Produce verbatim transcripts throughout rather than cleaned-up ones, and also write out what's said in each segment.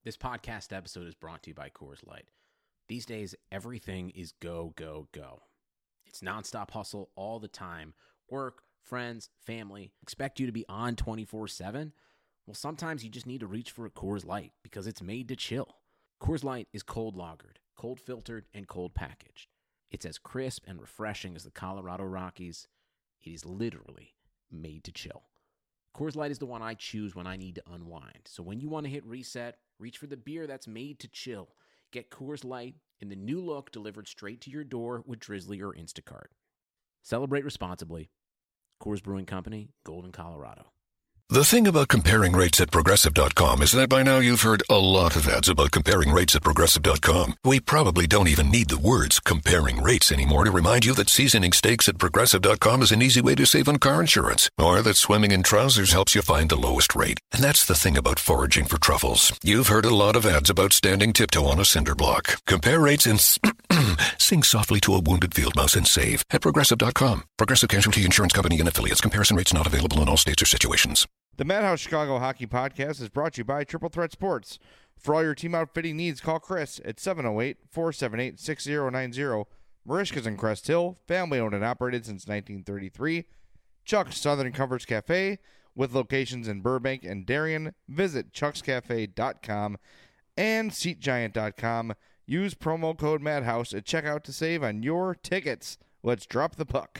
This podcast episode is brought to you by Coors Light. These days, everything is go, go, go. It's nonstop hustle all the time. Work, friends, family, expect you to be on twenty-four seven. Well, sometimes you just need to reach for a Coors Light because it's made to chill. Coors Light is cold lagered, cold filtered, and cold packaged. It's as crisp and refreshing as the Colorado Rockies. It is literally made to chill. Coors Light is the one I choose when I need to unwind. So when you want to hit reset, reach for the beer that's made to chill. Get Coors Light in the new look delivered straight to your door with Drizzly or Instacart. Celebrate responsibly. Coors Brewing Company, Golden, Colorado. The thing about comparing rates at Progressive dot com is that by now you've heard a lot of ads about comparing rates at Progressive dot com. We probably don't even need the words comparing rates anymore to remind you that seasoning steaks at Progressive dot com is an easy way to save on car insurance, or that swimming in trousers helps you find the lowest rate. And that's the thing about foraging for truffles. You've heard a lot of ads about standing tiptoe on a cinder block. Compare rates and s- sing softly to a wounded field mouse and save at Progressive dot com. Progressive Casualty Insurance Company and Affiliates. Comparison rates not available in all states or situations. The Madhouse Chicago Hockey Podcast is brought to you by Triple Threat Sports. For all your team outfitting needs, call Chris at seven oh eight, four seven eight, six oh nine oh. Marishka's in Crest Hill, family owned and operated since nineteen thirty-three. Chuck's Southern Comforts Cafe, with locations in Burbank and Darien. Visit chucks cafe dot com and seat giant dot com. Use promo code Madhouse at checkout to save on your tickets. Let's drop the puck.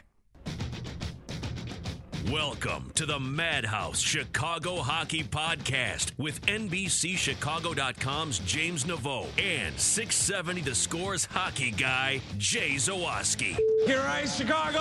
Welcome to the Madhouse Chicago Hockey Podcast with N B C Chicago dot com's James Naveau and six seventy The Score's hockey guy, Jay Zawaski. Here is Chicago!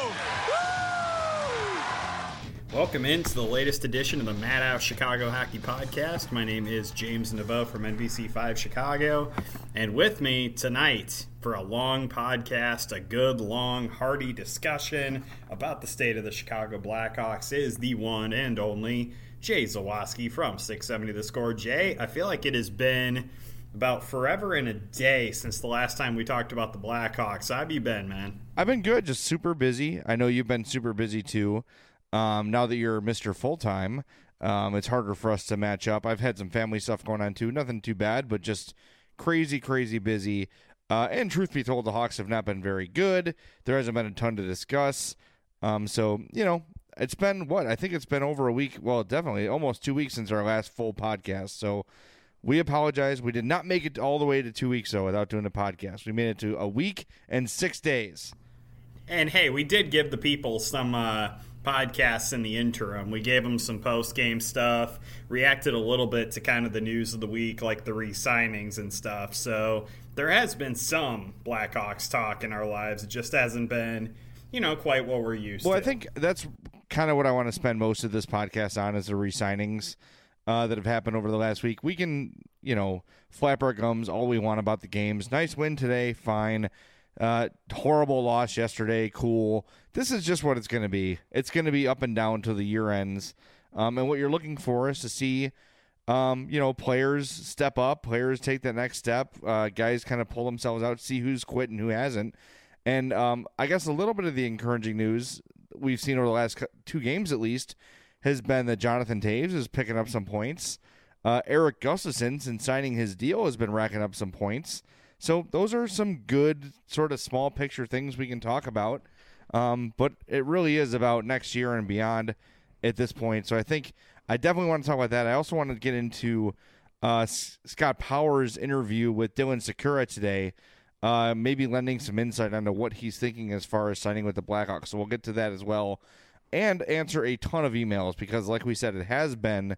Woo! Welcome into the latest edition of the Madhouse Chicago Hockey Podcast. My name is James Naveau from N B C five Chicago, and with me tonight for a long podcast, a good, long, hearty discussion about the state of the Chicago Blackhawks is the one and only Jay Zawaski from six seventy The Score. Jay, I feel like it has been about forever and a day since the last time we talked about the Blackhawks. How have you been, man? I've been good, just super busy. I know you've been super busy too. Um, now that you're Mister Full-Time, um, it's harder for us to match up. I've had some family stuff going on too. Nothing too bad, but just crazy, crazy busy. Uh, and truth be told, the Hawks have not been very good. There hasn't been a ton to discuss. Um, so, you know, it's been, what? I think it's been over a week. Well, definitely almost two weeks since our last full podcast. So we apologize. We did not make it all the way to two weeks, though, without doing a podcast. We made it to a week and six days. And, hey, we did give the people some uh, podcasts in the interim. We gave them some post-game stuff, reacted a little bit to kind of the news of the week, like the re-signings and stuff. So there has been some Blackhawks talk in our lives. It just hasn't been, you know, quite what we're used well, to. Well, I think that's kind of what I want to spend most of this podcast on is the re-signings uh, that have happened over the last week. We can, you know, flap our gums all we want about the games. Nice win today, fine. Uh, horrible loss yesterday, cool. This is just what it's going to be. It's going to be up and down till the year ends. Um, and what you're looking for is to see Um, you know, players step up, players take that next step, uh, guys kind of pull themselves out, see who's quit and who hasn't. And um, I guess a little bit of the encouraging news we've seen over the last two games at least has been that Jonathan Toews is picking up some points. Uh, Erik Gustafsson, since signing his deal, has been racking up some points. So those are some good sort of small picture things we can talk about. Um, but it really is about next year and beyond at this point. So I think I definitely want to talk about that. I also want to get into uh, S- Scott Powers' interview with Dylan Sikura today, uh, maybe lending some insight onto what he's thinking as far as signing with the Blackhawks. So we'll get to that as well and answer a ton of emails because, like we said, it has been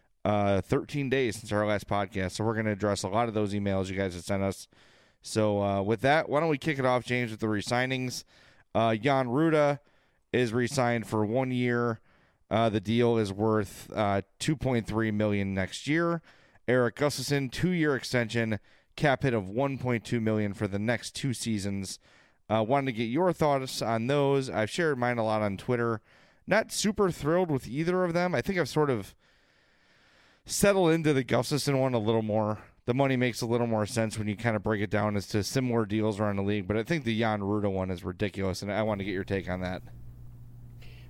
uh, thirteen days since our last podcast. So we're going to address a lot of those emails you guys have sent us. So uh, with that, why don't we kick it off, James, with the re-signings. Uh, Jan Ruda is re-signed for one year. Uh, the deal is worth uh, two point three million dollars next year. Erik Gustafsson, two-year extension, cap hit of one point two million dollars for the next two seasons. Uh, wanted to get your thoughts on those. I've shared mine a lot on Twitter. Not super thrilled with either of them. I think I've sort of settled into the Gustafsson one a little more. The money makes a little more sense when you kind of break it down as to similar deals around the league. But I think the Jan Ruda one is ridiculous, and I want to get your take on that.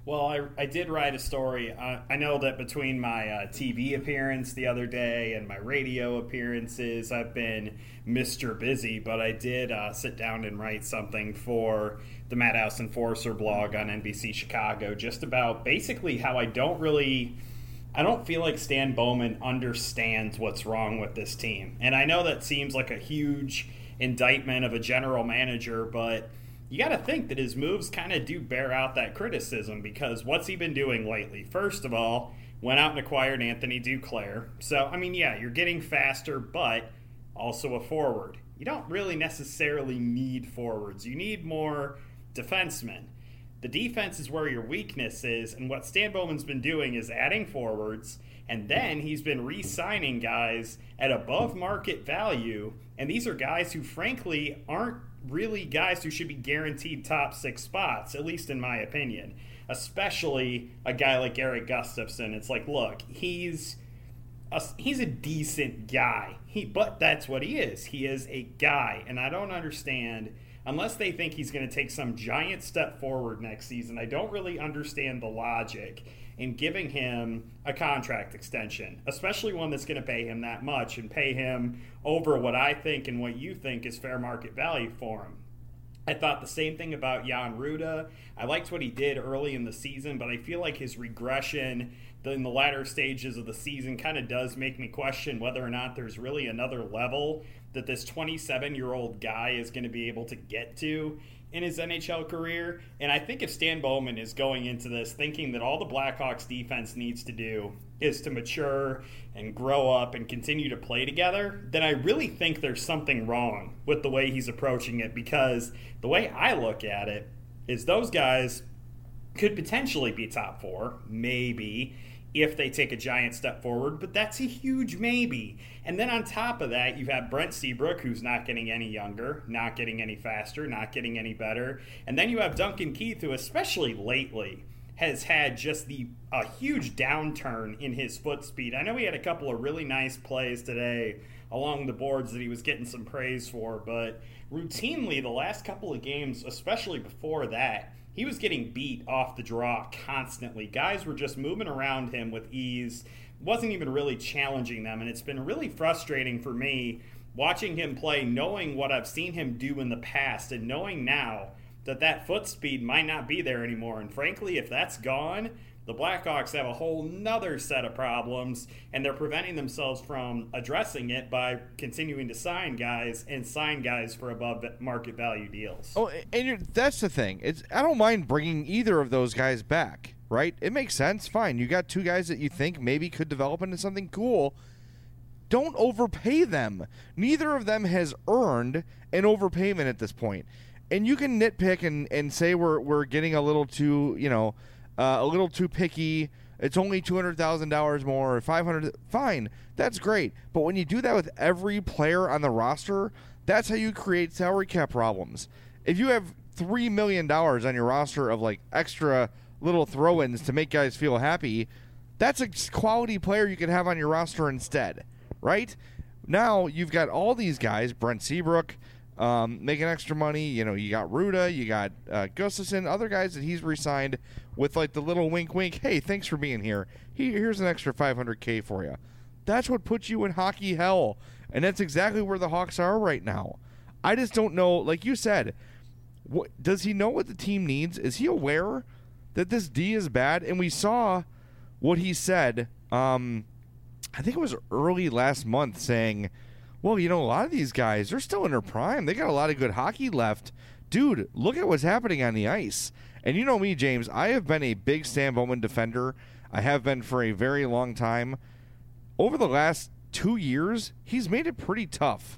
Well, I, I did write a story. Uh, I know that between my uh, T V appearance the other day and my radio appearances, I've been Mister Busy, but I did uh, sit down and write something for the Madhouse Enforcer blog on N B C Chicago just about basically how I don't really... I don't feel like Stan Bowman understands what's wrong with this team. And I know that seems like a huge indictment of a general manager, but you got to think that his moves kind of do bear out that criticism, because what's he been doing lately? First of all, went out and acquired Anthony Duclair. So, I mean, yeah, you're getting faster, but also a forward. You don't really necessarily need forwards. You need more defensemen. The defense is where your weakness is, and what Stan Bowman's been doing is adding forwards, and then he's been re-signing guys at above market value, and these are guys who frankly aren't really guys who should be guaranteed top six spots, at least in my opinion, especially a guy like Eric Gustafsson. It's like, look, he's a, he's a decent guy, he, but that's what he is. He is a guy, and I don't understand... Unless they think he's going to take some giant step forward next season, I don't really understand the logic in giving him a contract extension, especially one that's going to pay him that much and pay him over what I think and what you think is fair market value for him. I thought the same thing about Jan Ruda. I liked what he did early in the season, but I feel like his regression in the latter stages of the season kind of does make me question whether or not there's really another level that this twenty-seven-year-old guy is going to be able to get to in his N H L career. And I think if Stan Bowman is going into this thinking that all the Blackhawks defense needs to do is to mature and grow up and continue to play together, then I really think there's something wrong with the way he's approaching it, because the way I look at it is those guys could potentially be top four, maybe, if they take a giant step forward, but that's a huge maybe. And then on top of that, you have Brent Seabrook, who's not getting any younger, not getting any faster, not getting any better. And then you have Duncan Keith, who especially lately has had just the a huge downturn in his foot speed. I know he had a couple of really nice plays today along the boards that he was getting some praise for, but routinely the last couple of games, especially before that, he was getting beat off the draw constantly. Guys were just moving around him with ease, wasn't even really challenging them, and it's been really frustrating for me watching him play, knowing what I've seen him do in the past and knowing now that that foot speed might not be there anymore. And frankly, if that's gone, the Blackhawks have a whole nother set of problems, and they're preventing themselves from addressing it by continuing to sign guys and sign guys for above market value deals. Oh, and you're, that's the thing. It's I don't mind bringing either of those guys back, right? It makes sense. Fine. You got two guys that you think maybe could develop into something cool. Don't overpay them. Neither of them has earned an overpayment at this point. And you can nitpick and, and say we're we're getting a little too, you know, Uh, a little too picky. It's only two hundred thousand dollars more or five hundred dollars. Fine, that's great. But when you do that with every player on the roster, that's how you create salary cap problems. If you have three million dollars on your roster of like extra little throw-ins to make guys feel happy, that's a quality player you could have on your roster instead, right? Now you've got all these guys, Brent Seabrook, Um, making extra money. You know, you got Ruda, you got uh, Gustafsson, other guys that he's re-signed with like the little wink wink, hey, thanks for being here. He, here's an extra five hundred K for you. That's what puts you in hockey hell. And that's exactly where the Hawks are right now. I just don't know, like you said, what, does he know what the team needs? Is he aware that this D is bad? And we saw what he said, um, I think it was early last month, saying, well, you know, a lot of these guys, they're still in their prime. They got a lot of good hockey left. Dude, look at what's happening on the ice. And you know me, James, I have been a big Stan Bowman defender. I have been for a very long time. Over the last two years, he's made it pretty tough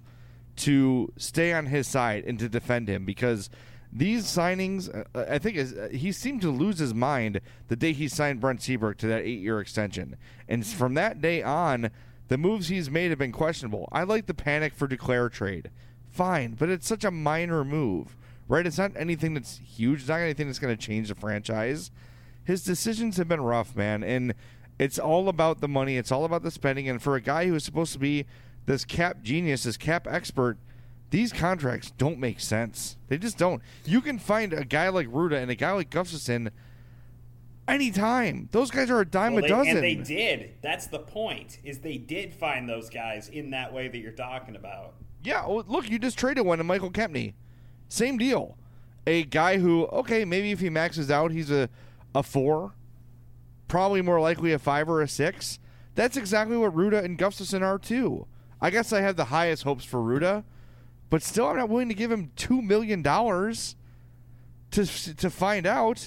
to stay on his side and to defend him, because these signings, uh, I think is, uh, he seemed to lose his mind the day he signed Brent Seabrook to that eight-year extension. And from that day on, the moves he's made have been questionable. I like the panic for Duclair trade. Fine, but it's such a minor move, right? It's not anything that's huge. It's not anything that's going to change the franchise. His decisions have been rough, man, and it's all about the money. It's all about the spending. And for a guy who is supposed to be this cap genius, this cap expert, these contracts don't make sense. They just don't. You can find a guy like Ruda and a guy like Gustafsson anytime. Those guys are a dime well, a they, dozen. And they did. That's the point, is they did find those guys in that way that you're talking about. Yeah, well, look, you just traded one to Michael Kempney. Same deal. A guy who, okay, maybe if he maxes out, he's a, a four. Probably more likely a five or a six. That's exactly what Ruda and Gustafsson are, too. I guess I have the highest hopes for Ruda, but still I'm not willing to give him two million dollars to to find out.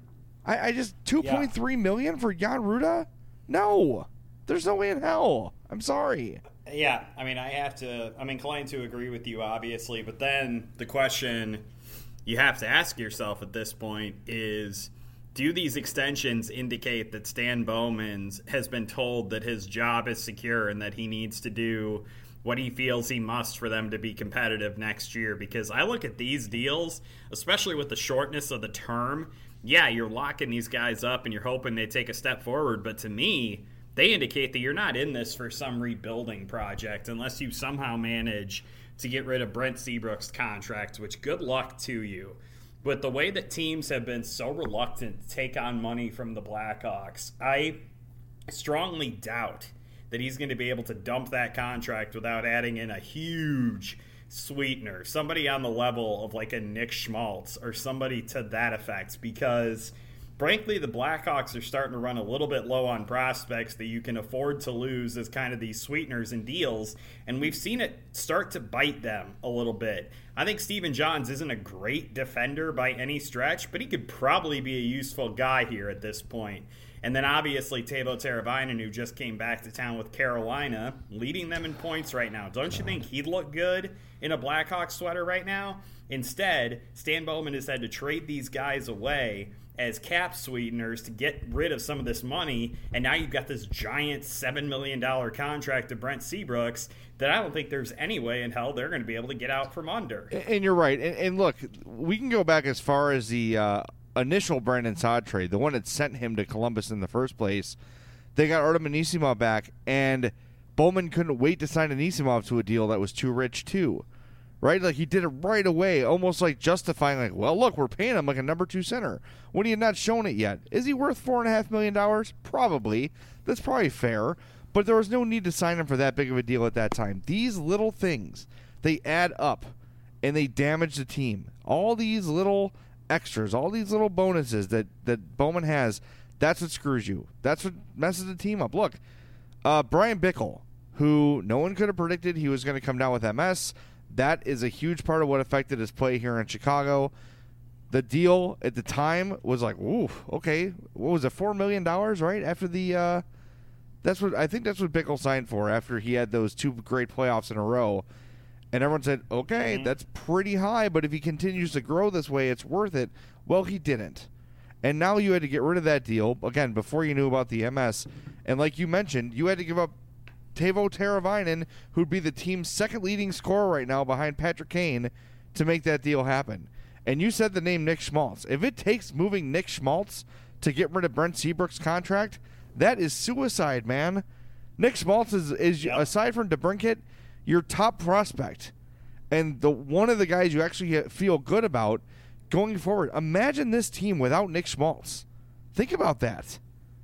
I, I just two point three million dollars for Jan Ruda? No. There's no way in hell. I'm sorry. Yeah, I mean, I have to, I'm inclined to agree with you, obviously, but then the question you have to ask yourself at this point is, do these extensions indicate that Stan Bowman has been told that his job is secure and that he needs to do what he feels he must for them to be competitive next year? Because I look at these deals, especially with the shortness of the term, yeah, you're locking these guys up and you're hoping they take a step forward, but to me, they indicate that you're not in this for some rebuilding project unless you somehow manage to get rid of Brent Seabrook's contract, which good luck to you. But the way that teams have been so reluctant to take on money from the Blackhawks, I strongly doubt that he's going to be able to dump that contract without adding in a huge sweetener, somebody on the level of like a Nick Schmaltz or somebody to that effect, because frankly, the Blackhawks are starting to run a little bit low on prospects that you can afford to lose as kind of these sweeteners and deals, and we've seen it start to bite them a little bit. I think Stephen Johns isn't a great defender by any stretch, but he could probably be a useful guy here at this point. And then obviously Teuvo Teravainen, who just came back to town with Carolina, leading them in points right now. Don't you think he'd look good in a Blackhawks sweater right now? Instead, Stan Bowman has had to trade these guys away as cap sweeteners to get rid of some of this money, and now you've got this giant seven million dollars contract to Brent Seabrooks that I don't think there's any way in hell they're going to be able to get out from under. And you're right. And, and look, we can go back as far as the uh, initial Brandon Saad trade, the one that sent him to Columbus in the first place. They got Artem Anisimov back, and Bowman couldn't wait to sign Anisimov to a deal that was too rich, too. Right? Like, he did it right away, almost like justifying, like, well, look, we're paying him like a number two center when he had not shown it yet. Is he worth four point five million dollars? Probably. That's probably fair. But there was no need to sign him for that big of a deal at that time. These little things, they add up, and they damage the team. All these little extras, all these little bonuses that, that Bowman has, that's what screws you. That's what messes the team up. Look, uh, Brian Bickle, who no one could have predicted he was going to come down with M S, that is a huge part of what affected his play here in Chicago. The deal at the time was like, ooh, okay, what was it, four million dollars, right? After the, uh, that's what, I think that's what Bickle signed for after he had those two great playoffs in a row. And everyone said, okay, mm-hmm. that's pretty high, but if he continues to grow this way, it's worth it. Well, he didn't. And now you had to get rid of that deal, again, before you knew about the M S. And like you mentioned, you had to give up Teuvo Teravainen, who'd be the team's second leading scorer right now behind Patrick Kane, to make that deal happen. And you said the name Nick Schmaltz. If it takes moving Nick Schmaltz to get rid of Brent Seabrook's contract, that is suicide, man. Nick Schmaltz is, is yep. aside from DeBrincat, your top prospect. And the one of the guys you actually feel good about going forward. Imagine this team without Nick Schmaltz. Think about that.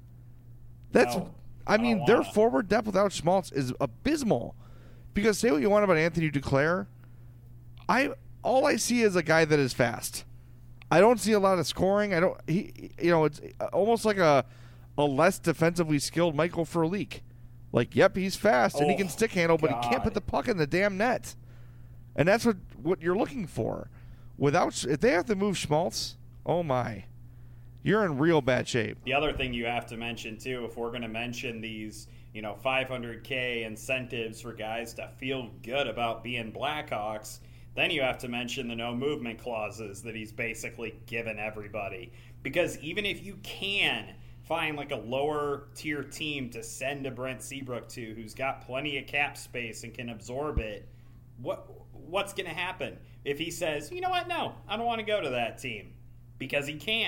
That's... No. I mean, their forward depth without Schmaltz is abysmal. Because say what you want about Anthony Duclair, I all I see is a guy that is fast. I don't see a lot of scoring. I don't. He, you know, it's almost like a a less defensively skilled Michael Furlik. Like, yep, he's fast and oh, he can stick handle, but God. he can't put the puck in the damn net. And that's what what you're looking for. Without, if they have to move Schmaltz, oh my. You're in real bad shape. The other thing you have to mention, too, if we're going to mention these, you know, five hundred K incentives for guys to feel good about being Blackhawks, then you have to mention the no movement clauses that he's basically given everybody. Because even if you can find like a lower tier team to send a Brent Seabrook to who's got plenty of cap space and can absorb it, what what's going to happen if he says, you know what, no, I don't want to go to that team? Because he can.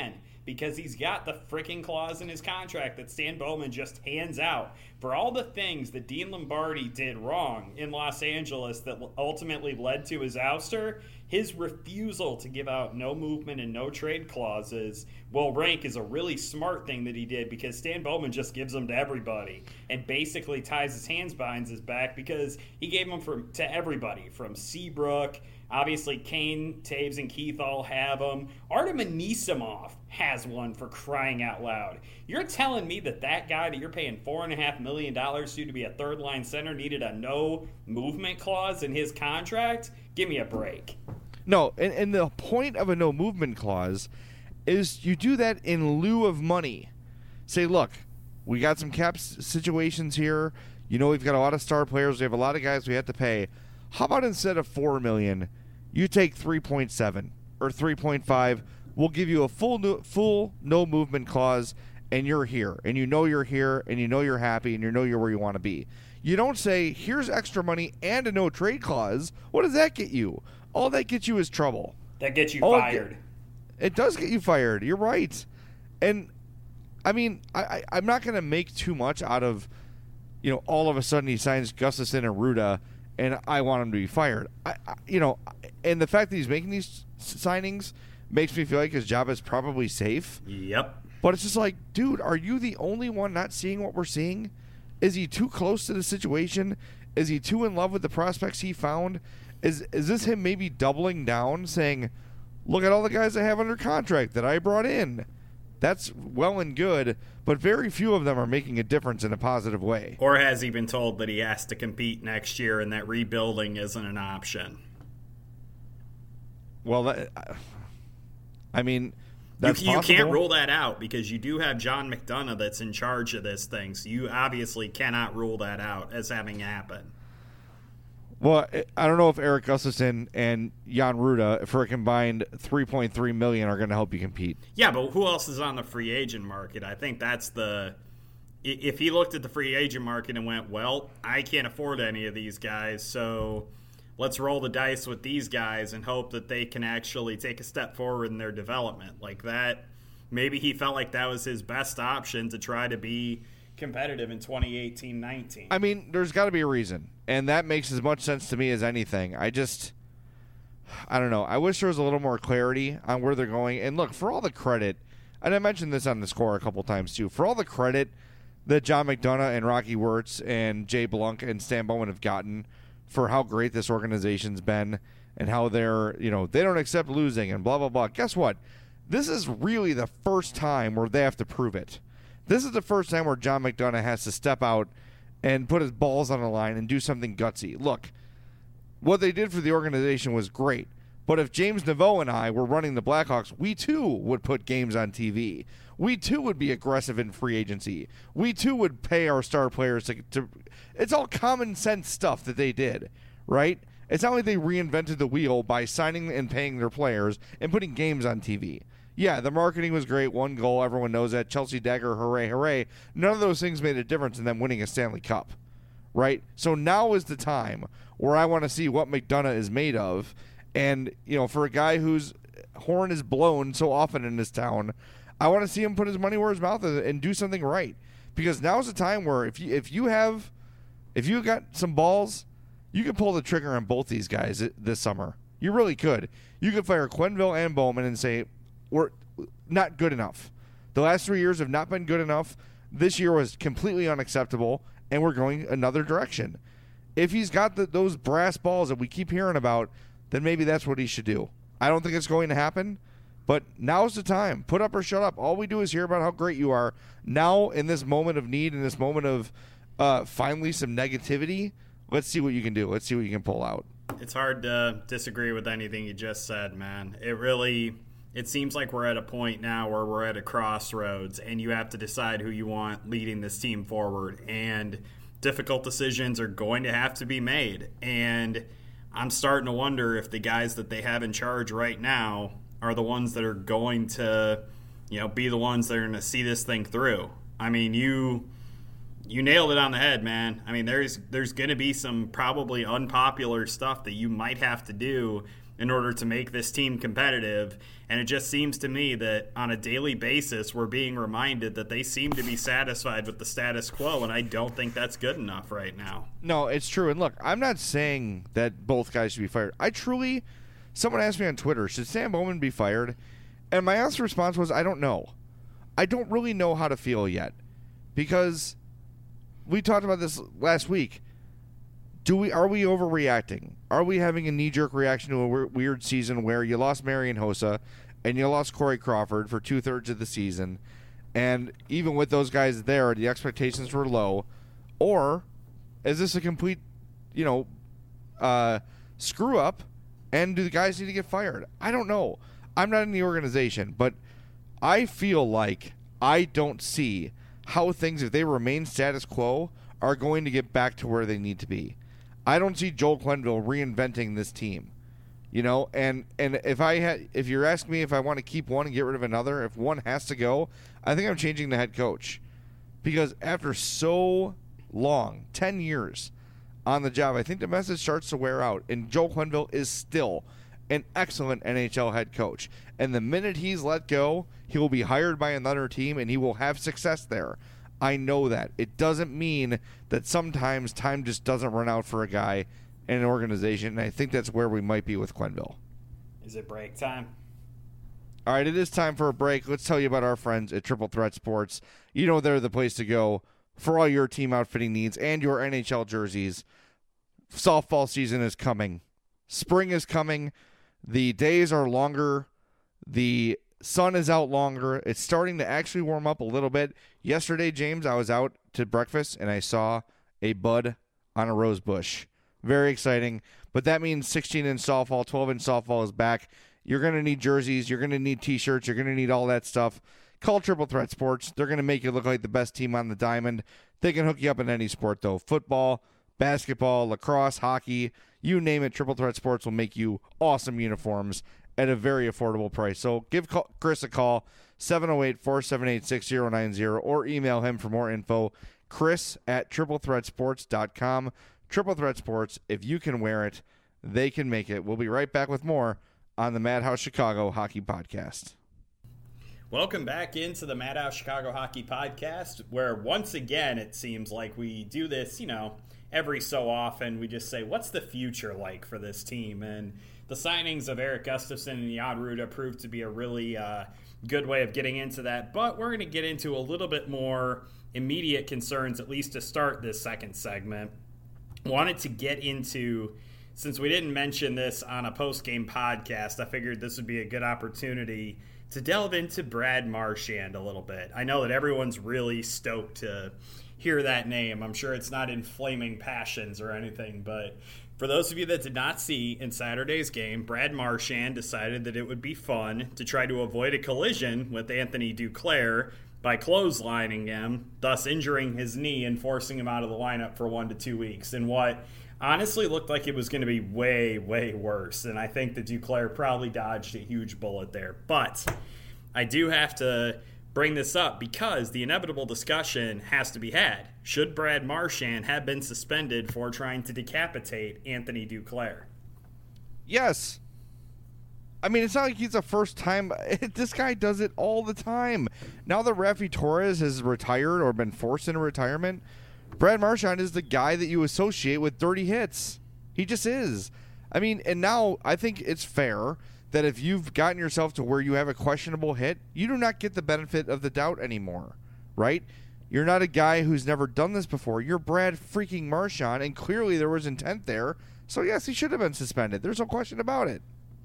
because he's got the freaking clause in his contract that Stan Bowman just hands out for all the things that Dean Lombardi did wrong in Los Angeles that ultimately led to his ouster. His refusal to give out no movement and no trade clauses will rank as a really smart thing that he did, because Stan Bowman just gives them to everybody and basically ties his hands behind his back, because he gave them from, to everybody from Seabrook. Obviously, Kane, Taves, and Keith all have them. Artem Anisimov has one, for crying out loud. You're telling me that that guy that you're paying four point five million dollars to to be a third-line center needed a no-movement clause in his contract? Give me a break. No, and, and the point of a no-movement clause is you do that in lieu of money. Say, look, we got some cap situations here. You know, we've got a lot of star players. We have a lot of guys we have to pay. How about instead of four million dollars, you take three point seven or three point five? We'll give you a full no, full no movement clause, and you're here, and you know you're here, and you know you're happy, and you know you're where you want to be. You don't say, here's extra money and a no trade clause. What does that get you? All that gets you is trouble. That gets you All fired. It, it does get you fired. You're right. And, I mean, I, I, I'm not going to make too much out of, you know, all of a sudden he signs Gustafsson and Ruda, and I want him to be fired. I, I, you know, and the fact that he's making these signings makes me feel like his job is probably safe. Yep. But it's just like, dude, are you the only one not seeing what we're seeing? Is he too close to the situation? Is he too in love with the prospects he found? Is is this him maybe doubling down, saying, look at all the guys I have under contract that I brought in? That's well and good, but very few of them are making a difference in a positive way. Or has he been told that he has to compete next year and that rebuilding isn't an option? Well, that, I mean, that's you, you possible. can't rule that out, because you do have John McDonough that's in charge of this thing, so you obviously cannot rule that out as having happened. Well, I don't know if Erik Gustafsson and Jan Ruda for a combined three point three million dollars are going to help you compete. Yeah, but who else is on the free agent market? I think that's the – if he looked at the free agent market and went, well, I can't afford any of these guys, so let's roll the dice with these guys and hope that they can actually take a step forward in their development. Like that, maybe he felt like that was his best option to try to be competitive in twenty eighteen nineteen. I mean, there's got to be a reason, and that makes as much sense to me as anything. I just, I don't know. I wish there was a little more clarity on where they're going. And look, for all the credit, and I mentioned this on the score a couple times too, for all the credit that John McDonough and Rocky Wirtz and Jay Blunk and Stan Bowman have gotten for how great this organization's been and how they're, you know, they don't accept losing and blah, blah, blah. Guess what? This is really the first time where they have to prove it. This is the first time where John McDonough has to step out and put his balls on the line and do something gutsy. Look, what they did for the organization was great. But if James Naveau and I were running the Blackhawks, we too would put games on T V. We too would be aggressive in free agency. We too would pay our star players to, to it's all common sense stuff that they did, right? It's not like they reinvented the wheel by signing and paying their players and putting games on T V. Yeah, the marketing was great. One goal, everyone knows that. Chelsea Dagger, hooray, hooray. None of those things made a difference in them winning a Stanley Cup, right? So now is the time where I want to see what McDonough is made of. And, you know, for a guy whose horn is blown so often in this town, I want to see him put his money where his mouth is and do something right. Because now's the time where if you if you have if you got some balls, you can pull the trigger on both these guys this summer. You really could. You could fire Quenneville and Bowman and say, we're not good enough. The last three years have not been good enough. This year was completely unacceptable, and we're going another direction. If he's got the, those brass balls that we keep hearing about, then maybe that's what he should do. I don't think it's going to happen, but now's the time. Put up or shut up. All we do is hear about how great you are. Now, in this moment of need, in this moment of uh, finally some negativity, let's see what you can do. Let's see what you can pull out. It's hard to disagree with anything you just said, man. It really... It seems like we're at a point now where we're at a crossroads and you have to decide who you want leading this team forward. And difficult decisions are going to have to be made. And I'm starting to wonder if the guys that they have in charge right now are the ones that are going to, you know, be the ones that are going to see this thing through. I mean, you you nailed it on the head, man. I mean, there's there's going to be some probably unpopular stuff that you might have to do in order to make this team competitive. And it just seems to me that on a daily basis, we're being reminded that they seem to be satisfied with the status quo, and I don't think that's good enough right now. No, it's true. And look, I'm not saying that both guys should be fired. I truly, someone asked me on Twitter, should Sam Bowman be fired? And my honest response was, I don't know. I don't really know how to feel yet. Because we talked about this last week. Do we are we overreacting? Are we having a knee-jerk reaction to a w- weird season where you lost Marian Hossa and you lost Corey Crawford for two-thirds of the season, and even with those guys there, the expectations were low? Or is this a complete, you know, uh, screw-up, and do the guys need to get fired? I don't know. I'm not in the organization, but I feel like I don't see how things, if they remain status quo, are going to get back to where they need to be. I don't see Joel Quenneville reinventing this team, you know. And and if I had, if you're asking me if I want to keep one and get rid of another, if one has to go, I think I'm changing the head coach, because after so long, ten years on the job, I think the message starts to wear out. And Joel Quenneville is still an excellent N H L head coach, and the minute he's let go, he will be hired by another team and he will have success there. I know that. It doesn't mean that sometimes time just doesn't run out for a guy in an organization, and I think that's where we might be with Quenneville. Is it break time? All right, it is time for a break. Let's tell you about our friends at Triple Threat Sports. You know they're the place to go for all your team outfitting needs and your N H L jerseys. Softball season is coming. Spring is coming. The days are longer. The sun is out longer. It's starting to actually warm up a little bit. Yesterday, James, I was out to breakfast and I saw a bud on a rose bush. Very exciting. But that means sixteen-inch softball, twelve-inch softball is back. You're going to need jerseys. You're going to need T-shirts. You're going to need all that stuff. Call Triple Threat Sports. They're going to make you look like the best team on the diamond. They can hook you up in any sport, though. Football, basketball, lacrosse, hockey, you name it. Triple Threat Sports will make you awesome uniforms at a very affordable price. So give Chris a call, seven oh eight, four seven eight, six oh nine oh, or email him for more info, chris at triple threat sports dot com. Triple Threat Sports, if you can wear it, they can make it. We'll be right back with more on the Madhouse Chicago Hockey Podcast. Welcome back into the Madhouse Chicago Hockey Podcast, where once again it seems like we do this, you know, every so often. We just say, what's the future like for this team? And the signings of Erik Gustafsson and Jan Rutta proved to be a really uh, good way of getting into that. But we're going to get into a little bit more immediate concerns, at least to start this second segment. Wanted to get into, since we didn't mention this on a post-game podcast, I figured this would be a good opportunity to delve into Brad Marchand a little bit. I know that everyone's really stoked to hear that name. I'm sure it's not in flaming passions or anything, but for those of you that did not see in Saturday's game, Brad Marchand decided that it would be fun to try to avoid a collision with Anthony Duclair by clotheslining him, thus injuring his knee and forcing him out of the lineup for one to two weeks in what honestly looked like it was going to be way, way worse. And I think that Duclair probably dodged a huge bullet there. But I do have to bring this up because the inevitable discussion has to be had. Should Brad Marchand have been suspended for trying to decapitate Anthony Duclair? Yes. I mean, it's not like he's the first time. This guy does it all the time. Now that Rafi Torres has retired or been forced into retirement, Brad Marchand is the guy that you associate with dirty hits. He just is. I mean, and now I think it's fair that if you've gotten yourself to where you have a questionable hit, you do not get the benefit of the doubt anymore, right? You're not a guy who's never done this before. You're Brad freaking Marchand, and clearly there was intent there. So, yes, he should have been suspended. There's no question about it.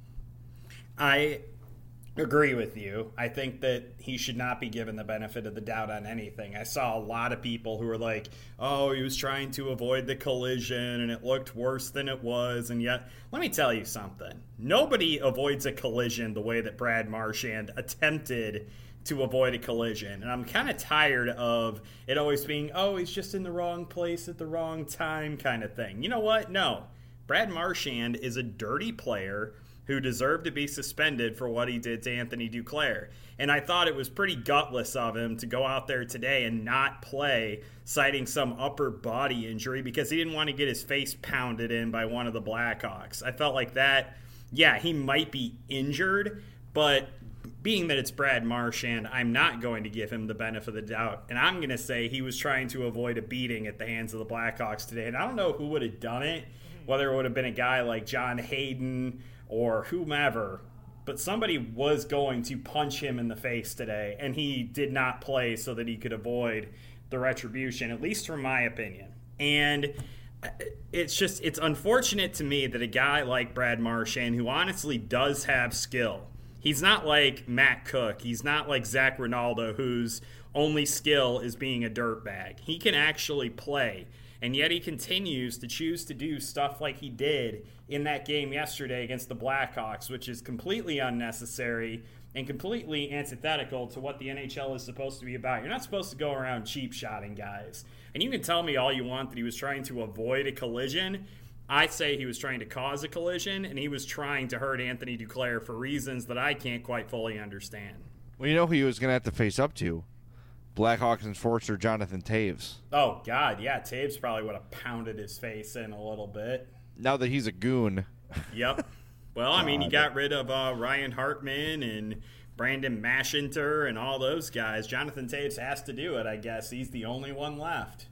I agree with you. I think that he should not be given the benefit of the doubt on anything. I saw a lot of people who were like, oh, he was trying to avoid the collision and it looked worse than it was. And yet, let me tell you something. Nobody avoids a collision the way that Brad Marchand attempted to avoid a collision. And I'm kind of tired of it always being, oh, he's just in the wrong place at the wrong time kind of thing. You know what? No. Brad Marchand is a dirty player who deserved to be suspended for what he did to Anthony Duclair. And I thought it was pretty gutless of him to go out there today and not play, citing some upper body injury because he didn't want to get his face pounded in by one of the Blackhawks. I felt like that yeah, he might be injured, but being that it's Brad Marchand, I'm not going to give him the benefit of the doubt. And I'm going to say he was trying to avoid a beating at the hands of the Blackhawks today. And I don't know who would have done it, whether it would have been a guy like John Hayden or whomever, but somebody was going to punch him in the face today, and he did not play so that he could avoid the retribution, at least from my opinion. And it's just, it's unfortunate to me that a guy like Brad Marchand, who honestly does have skill, he's not like Matt Cook, he's not like Zach Rinaldo, whose only skill is being a dirtbag. He can actually play, and yet he continues to choose to do stuff like he did in that game yesterday against the Blackhawks, which is completely unnecessary and completely antithetical to what the N H L is supposed to be about. You're not supposed to go around cheap shotting guys. And you can tell me all you want that he was trying to avoid a collision. I say he was trying to cause a collision, and he was trying to hurt Anthony Duclair for reasons that I can't quite fully understand. Well, you know who he was going to have to face up to? Blackhawks enforcer Jonathan Toews. Oh, God, yeah. Toews probably would have pounded his face in a little bit. Now that he's a goon. Yep. Well, I mean, he got rid of uh, Ryan Hartman and Brandon Mashinter and all those guys. Jonathan Toews has to do it, I guess. He's the only one left.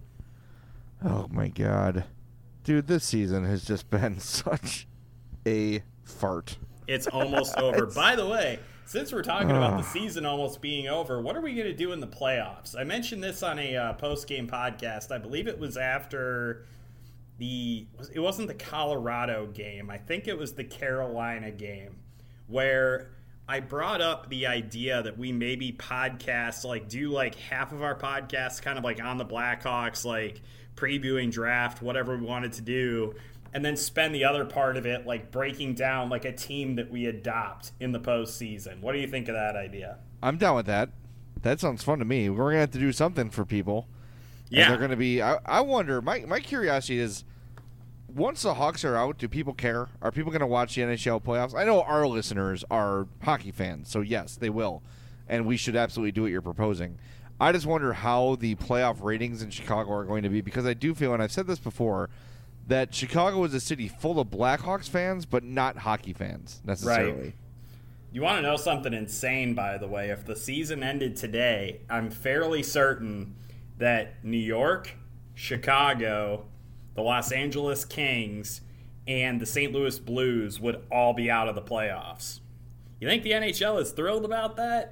Oh, my God. Dude, this season has just been such a fart. It's almost over. It's... By the way, since we're talking about the season almost being over, what are we going to do in the playoffs? I mentioned this on a uh, post-game podcast. I believe it was after the – it wasn't the Colorado game. I think it was the Carolina game where I brought up the idea that we maybe podcast, like do like half of our podcasts kind of like on the Blackhawks, like previewing draft, whatever we wanted to do, and then spend the other part of it like breaking down like a team that we adopt in the postseason. What do you think of that idea? I'm down with that. That sounds fun to me. We're going to have to do something for people. Yeah. And they're going to be, I, I wonder, my, my curiosity is, once the Hawks are out, do people care? Are people going to watch the N H L playoffs? I know our listeners are hockey fans, so yes, they will. And we should absolutely do what you're proposing. I just wonder how the playoff ratings in Chicago are going to be, because I do feel, and I've said this before, that Chicago is a city full of Blackhawks fans, but not hockey fans necessarily. Right. You want to know something insane, by the way? If the season ended today, I'm fairly certain that New York, Chicago, the Los Angeles Kings, and the Saint Louis Blues would all be out of the playoffs. You think the N H L is thrilled about that?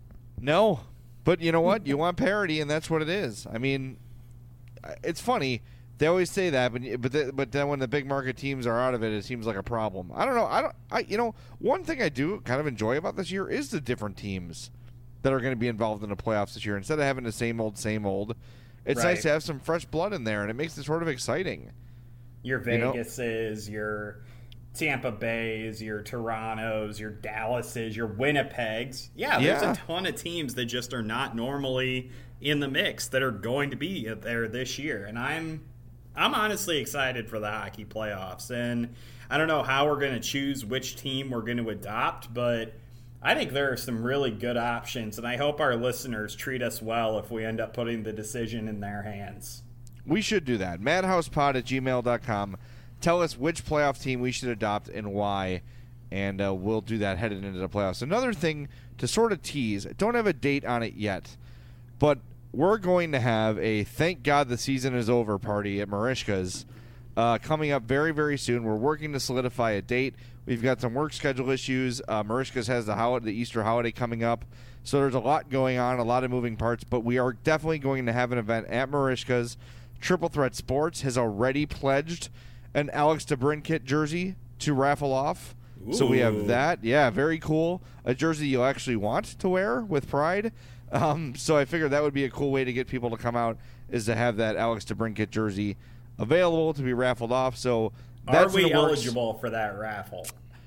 No. But you know what? You want parity, and that's what it is. I mean, it's funny. They always say that, but but the, but then when the big market teams are out of it, it seems like a problem. I don't know. I don't. I you know one thing I do kind of enjoy about this year is the different teams that are going to be involved in the playoffs this year. Instead of having the same old, same old, it's right. nice to have some fresh blood in there, and it makes it sort of exciting. Your Vegases, you know? Your Tampa Bays, your Torontos, your Dallases, your Winnipegs. Yeah, there's yeah. a ton of teams that just are not normally in the mix that are going to be there this year, and I'm. I'm honestly excited for the hockey playoffs, and I don't know how we're going to choose which team we're going to adopt, but I think there are some really good options, and I hope our listeners treat us well if we end up putting the decision in their hands. We should do that. madhousepod at gmail dot com. Tell us which playoff team we should adopt and why, and uh, we'll do that headed into the playoffs. Another thing to sort of tease, don't have a date on it yet, but we're going to have a Thank God the Season is Over party at Merichka's uh, coming up very, very soon. We're working to solidify a date. We've got some work schedule issues. Uh, Merichka's has the, holiday, the Easter holiday coming up. So there's a lot going on, a lot of moving parts. But we are definitely going to have an event at Merichka's. Triple Threat Sports has already pledged an Alex DeBrincat jersey to raffle off. Ooh. So we have that. Yeah, very cool. A jersey you'll actually want to wear with pride. Um, so I figured that would be a cool way to get people to come out, is to have that Alex DeBrincat jersey available to be raffled off. So that's Are we eligible for that raffle?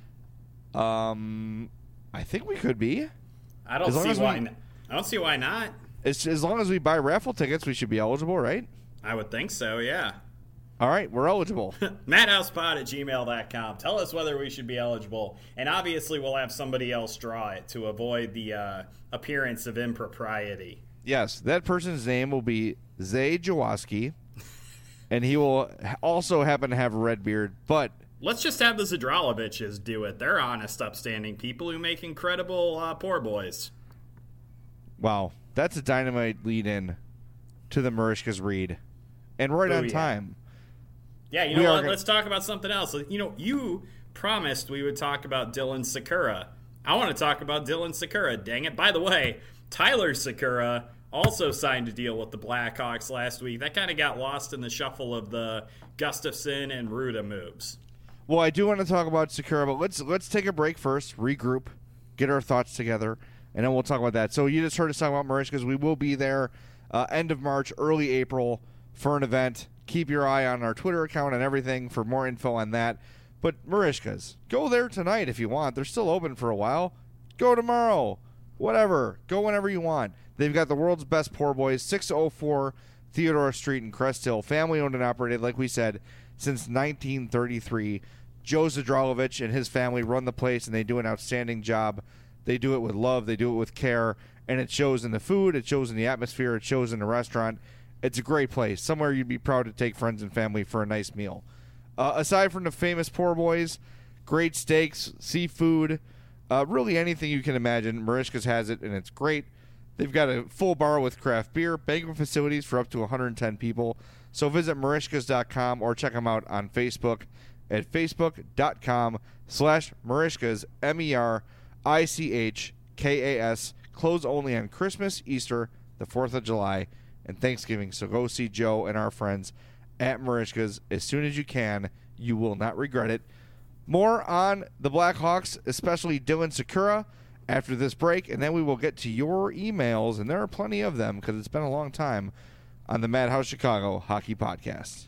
Um, I think we could be. I don't see why. We, I don't see why not. It's, as long as we buy raffle tickets, we should be eligible, right? I would think so. Yeah. All right, we're eligible. madhousepod at gmail dot com. Tell us whether we should be eligible. And obviously we'll have somebody else draw it to avoid the uh, appearance of impropriety. Yes, that person's name will be Zay Jaworski, and he will also happen to have a red beard, but let's just have the Zadraloviches do it. They're honest, upstanding people who make incredible uh, poor boys. Wow, that's a dynamite lead-in to the Marishkas read. And right Ooh, on yeah. time. Yeah, you We know are what? gonna- Let's talk about something else. You know, you promised we would talk about Dylan Sakura. I want to talk about Dylan Sakura, dang it. By the way, Tyler Sakura also signed a deal with the Blackhawks last week. That kind of got lost in the shuffle of the Gustafsson and Ruda moves. Well, I do want to talk about Sakura, but let's let's take a break first, regroup, get our thoughts together, and then we'll talk about that. So you just heard us talk about Marishkas. We will be there uh, end of March, early April for an event. Keep your eye on our Twitter account and everything for more info on that. But Marishkas, go there tonight if you want. They're still open for a while. Go tomorrow. Whatever. Go whenever you want. They've got the world's best poor boys, six oh four Theodore Street in Crest Hill. Family owned and operated, like we said, since nineteen thirty-three. Joe Zadralovich and his family run the place, and they do an outstanding job. They do it with love. They do it with care. And it shows in the food. It shows in the atmosphere. It shows in the restaurant. It's a great place. Somewhere you'd be proud to take friends and family for a nice meal. Uh, aside from the famous poor boys, great steaks, seafood, uh, really anything you can imagine, Marishkas has it, and it's great. They've got a full bar with craft beer, banquet facilities for up to one hundred ten people. So visit marishkas dot com or check them out on Facebook at facebook.com slash Marishkas, M E R I C H K A S. Closed only on Christmas, Easter, the fourth of July, and Thanksgiving. So go see Joe and our friends at Marishkas as soon as you can. You will not regret it. More on the Blackhawks, especially Dylan Sakura, after this break, and then we will get to your emails, and there are plenty of them because it's been a long time on the Madhouse Chicago Hockey Podcast.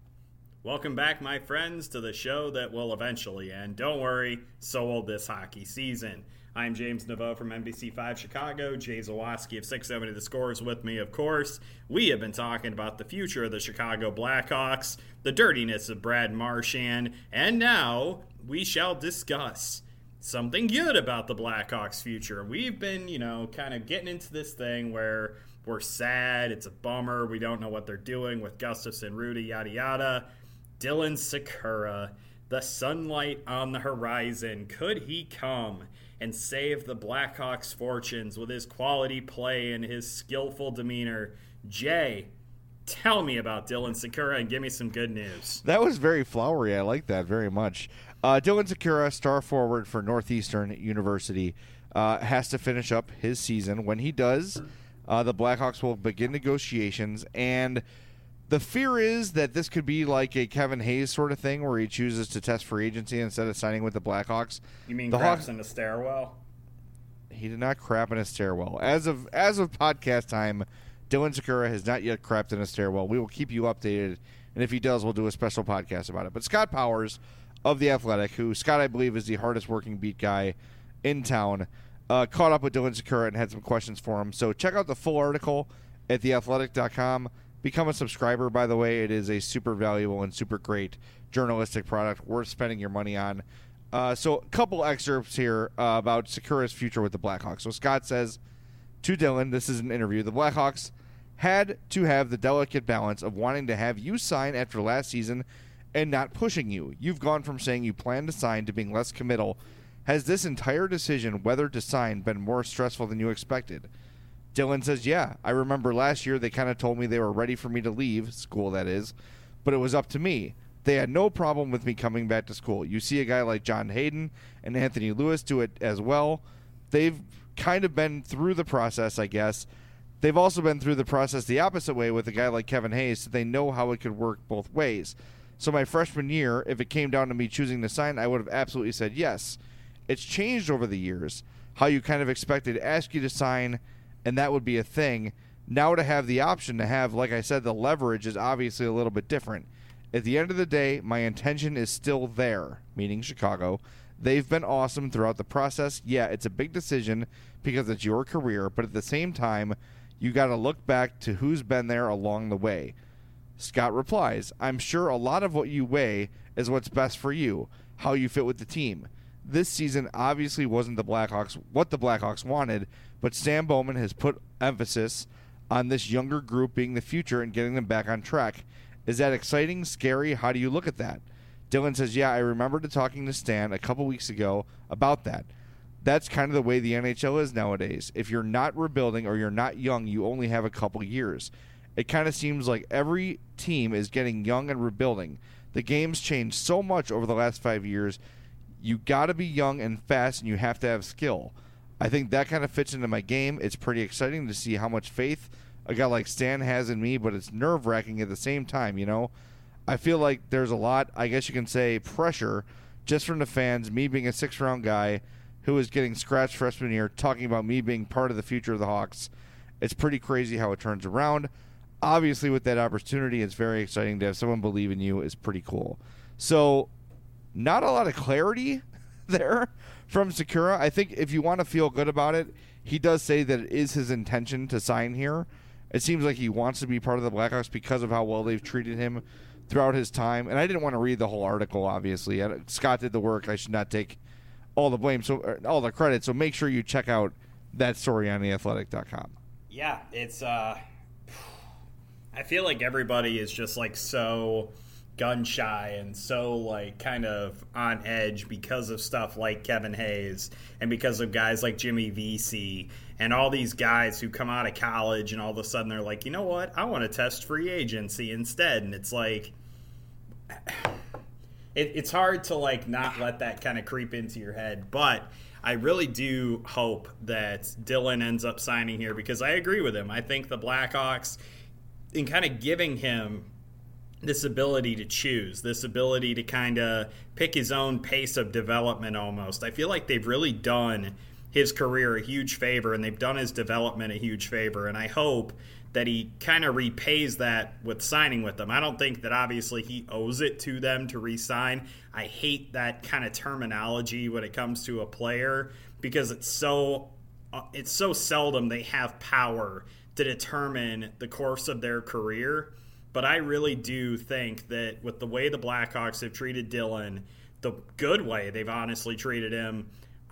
Welcome back, my friends, to the show that will eventually end. Don't worry, so will this hockey season. I'm James Naveau from N B C five Chicago. Jay Zawaski of six seventy The Score is with me, of course. We have been talking about the future of the Chicago Blackhawks, the dirtiness of Brad Marchand, and now we shall discuss something good about the Blackhawks' future. We've been, you know, kind of getting into this thing where we're sad, it's a bummer, we don't know what they're doing with Gustafsson, Ruda, yada yada. Dylan Sakura, the sunlight on the horizon, could he come and save the Blackhawks' fortunes with his quality play and his skillful demeanor? Jay, tell me about Dylan Sakura and give me some good news. That was very flowery. I like that very much. Uh, Dylan Sakura, star forward for Northeastern University, uh, has to finish up his season. When he does, uh, the Blackhawks will begin negotiations, and the fear is that this could be like a Kevin Hayes sort of thing where he chooses to test free agency instead of signing with the Blackhawks. You mean the craps Hawks, in the stairwell? He did not crap in a stairwell. As of as of podcast time, Dylan Sakura has not yet crapped in a stairwell. We will keep you updated, and if he does, we'll do a special podcast about it. But Scott Powers of The Athletic, who Scott, I believe, is the hardest working beat guy in town, uh, caught up with Dylan Sakura and had some questions for him. So check out the full article at the athletic dot com. Become a subscriber, by the way. It is a super valuable and super great journalistic product worth spending your money on. Uh, so a couple excerpts here uh, about Sakura's future with the Blackhawks. So Scott says to Dylan, this is an interview, the Blackhawks had to have the delicate balance of wanting to have you sign after last season and not pushing you. You've gone from saying you plan to sign to being less committal. Has this entire decision whether to sign been more stressful than you expected? Dylan says, yeah, I remember last year they kind of told me they were ready for me to leave, school that is, but it was up to me. They had no problem with me coming back to school. You see a guy like John Hayden and Anthony Lewis do it as well. They've kind of been through the process, I guess. They've also been through the process the opposite way with a guy like Kevin Hayes, so they know how it could work both ways. So my freshman year, if it came down to me choosing to sign, I would have absolutely said yes. It's changed over the years, how you kind of expected to ask you to sign, and that would be a thing. Now to have the option to have, like I said, the leverage is obviously a little bit different. At the end of the day, my intention is still there, meaning Chicago. They've been awesome throughout the process. Yeah, it's a big decision because it's your career, but at the same time, you got to look back to who's been there along the way. Scott replies, I'm sure a lot of what you weigh is what's best for you, how you fit with the team. This season obviously wasn't the Blackhawks what the Blackhawks wanted, but Stan Bowman has put emphasis on this younger group being the future and getting them back on track. Is that exciting, scary? How do you look at that? Dylan says, yeah, I remember talking to Stan a couple weeks ago about that. That's kind of the way the N H L is nowadays. If you're not rebuilding or you're not young, you only have a couple years. It kind of seems like every team is getting young and rebuilding. The game's changed so much over the last five years. You got to be young and fast, and you have to have skill. I think that kind of fits into my game. It's pretty exciting to see how much faith a guy like Stan has in me, but it's nerve-wracking at the same time, you know? I feel like there's a lot, I guess you can say, pressure just from the fans, me being a six-round guy who is getting scratched freshman year, talking about me being part of the future of the Hawks. It's pretty crazy how it turns around. Obviously, with that opportunity, it's very exciting to have someone believe in you is pretty cool. So, not a lot of clarity there from Sekera. I think if you want to feel good about it, he does say that it is his intention to sign here. It seems like he wants to be part of the Blackhawks because of how well they've treated him throughout his time. And I didn't want to read the whole article, obviously. Scott did the work. I should not take all the blame, so all the credit. So make sure you check out that story on the athletic dot com. Yeah, it's uh I feel like everybody is just like so gun shy and so like kind of on edge because of stuff like Kevin Hayes and because of guys like Jimmy Vesey and all these guys who come out of college and all of a sudden they're like, you know what, I want to test free agency instead. And it's like it, it's hard to like not let that kind of creep into your head. But I really do hope that Dylan ends up signing here because I agree with him. I think the Blackhawks, in kind of giving him this ability to choose, this ability to kind of pick his own pace of development almost, I feel like they've really done his career a huge favor and they've done his development a huge favor. And I hope that he kind of repays that with signing with them. I don't think that obviously he owes it to them to re-sign. I hate that kind of terminology when it comes to a player because it's so uh, it's so seldom they have power to determine the course of their career. But I really do think that with the way the Blackhawks have treated Dylan, the good way they've honestly treated him,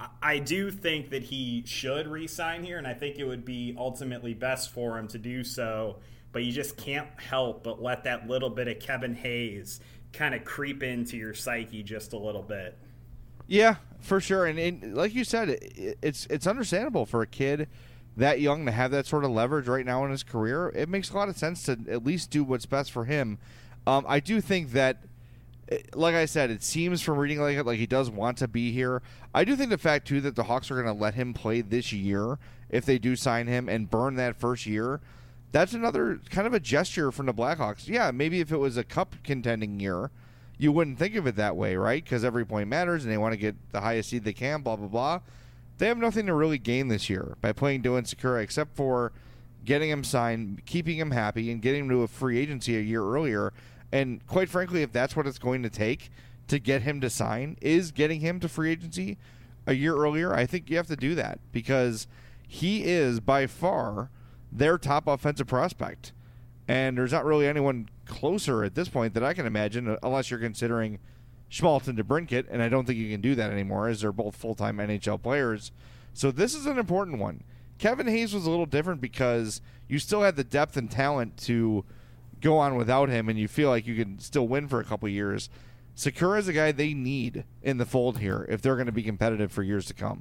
I do think that he should re-sign here, and I think it would be ultimately best for him to do so. But you just can't help but let that little bit of Kevin Hayes kind of creep into your psyche just a little bit. Yeah, for sure. And, and like you said, it, it's it's understandable for a kid that young to have that sort of leverage right now in his career. It makes a lot of sense to at least do what's best for him. Um, I do think that, like I said, it seems from reading like it like he does want to be here. I do think the fact, too, that the Hawks are going to let him play this year if they do sign him and burn that first year, that's another kind of a gesture from the Blackhawks. Yeah, maybe if it was a cup contending year, you wouldn't think of it that way, right? Because every point matters and they want to get the highest seed they can, blah, blah, blah. They have nothing to really gain this year by playing Dylan Sekera except for getting him signed, keeping him happy, and getting him to a free agency a year earlier. And quite frankly, if that's what it's going to take to get him to sign, is getting him to free agency a year earlier, I think you have to do that because he is by far their top offensive prospect. And there's not really anyone closer at this point that I can imagine, unless you're considering Schmaltz and DeBrincat, and I don't think you can do that anymore as they're both full-time N H L players. So this is an important one. Kevin Hayes was a little different because you still had the depth and talent to go on without him, and you feel like you can still win for a couple years. Sekera is a guy they need in the fold here if they're going to be competitive for years to come.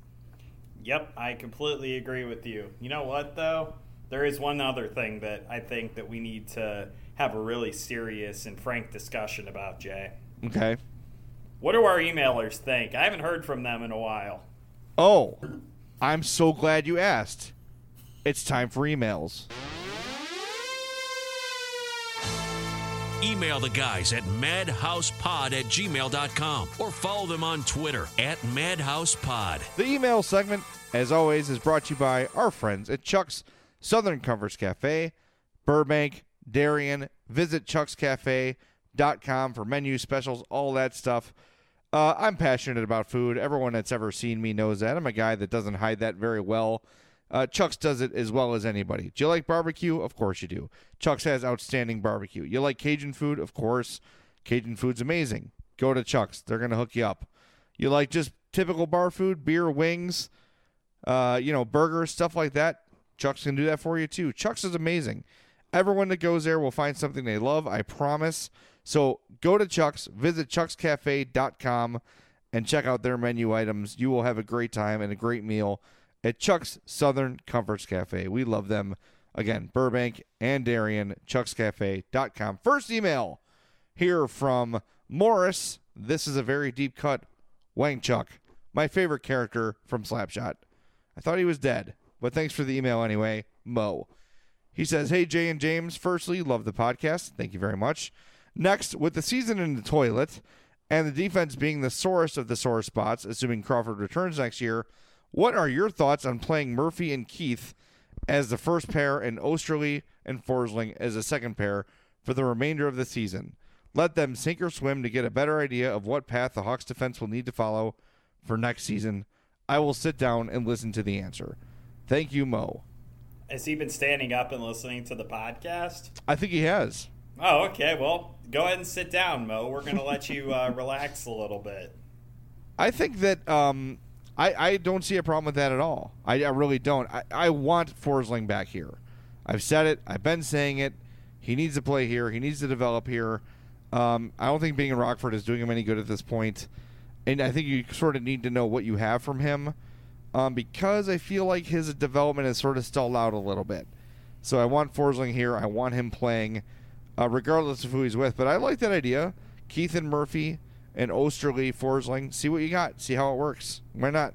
Yep, I completely agree with you. You know what, though? There is one other thing that I think that we need to have a really serious and frank discussion about, Jay. Okay. What do our emailers think? I haven't heard from them in a while. Oh, I'm so glad you asked. It's time for emails. Email the guys at madhousepod at gmail dot com or follow them on Twitter at madhousepod. The email segment, as always, is brought to you by our friends at Chuck's Southern Comforts Cafe, Burbank, Darien. Visit chucks cafe dot com for menu specials, all that stuff. Uh, I'm passionate about food. Everyone that's ever seen me knows that. I'm a guy that doesn't hide that very well. Uh, Chuck's does it as well as anybody. Do you like barbecue? Of course you do. Chuck's has outstanding barbecue. You like Cajun food? Of course. Cajun food's amazing. Go to Chuck's. They're going to hook you up. You like just typical bar food, beer, wings, uh, you know, burgers, stuff like that? Chuck's can do that for you too. Chuck's is amazing. Everyone that goes there will find something they love, I promise. So go to Chuck's, visit chucks cafe dot com, and check out their menu items. You will have a great time and a great meal at Chuck's Southern Comforts Cafe. We love them. Again, Burbank and Darien, chucks cafe dot com. First email here from Morris. This is a very deep cut. Wang Chuck, my favorite character from Slapshot. I thought he was dead, but thanks for the email anyway, Mo. He says, hey, Jay and James, firstly, love the podcast. Thank you very much. Next, with the season in the toilet and the defense being the sorest of the sore spots, assuming Crawford returns next year, what are your thoughts on playing Murphy and Keith as the first pair and Osterley and Forsling as a second pair for the remainder of the season? Let them sink or swim to get a better idea of what path the Hawks defense will need to follow for next season. I will sit down and listen to the answer. Thank you, Mo. Has he been standing up and listening to the podcast? I think he has. Oh, okay. Well, go ahead and sit down, Mo. We're going to let you uh, relax a little bit. I think that um, I, I don't see a problem with that at all. I, I really don't. I, I want Forsling back here. I've said it. I've been saying it. He needs to play here. He needs to develop here. Um, I don't think being in Rockford is doing him any good at this point. And I think you sort of need to know what you have from him um, because I feel like his development is sort of stalled out a little bit. So I want Forsling here. I want him playing uh, regardless of who he's with. But I like that idea. Keith and Murphy and Osterley, Forsling. See what you got. See how it works. Why not?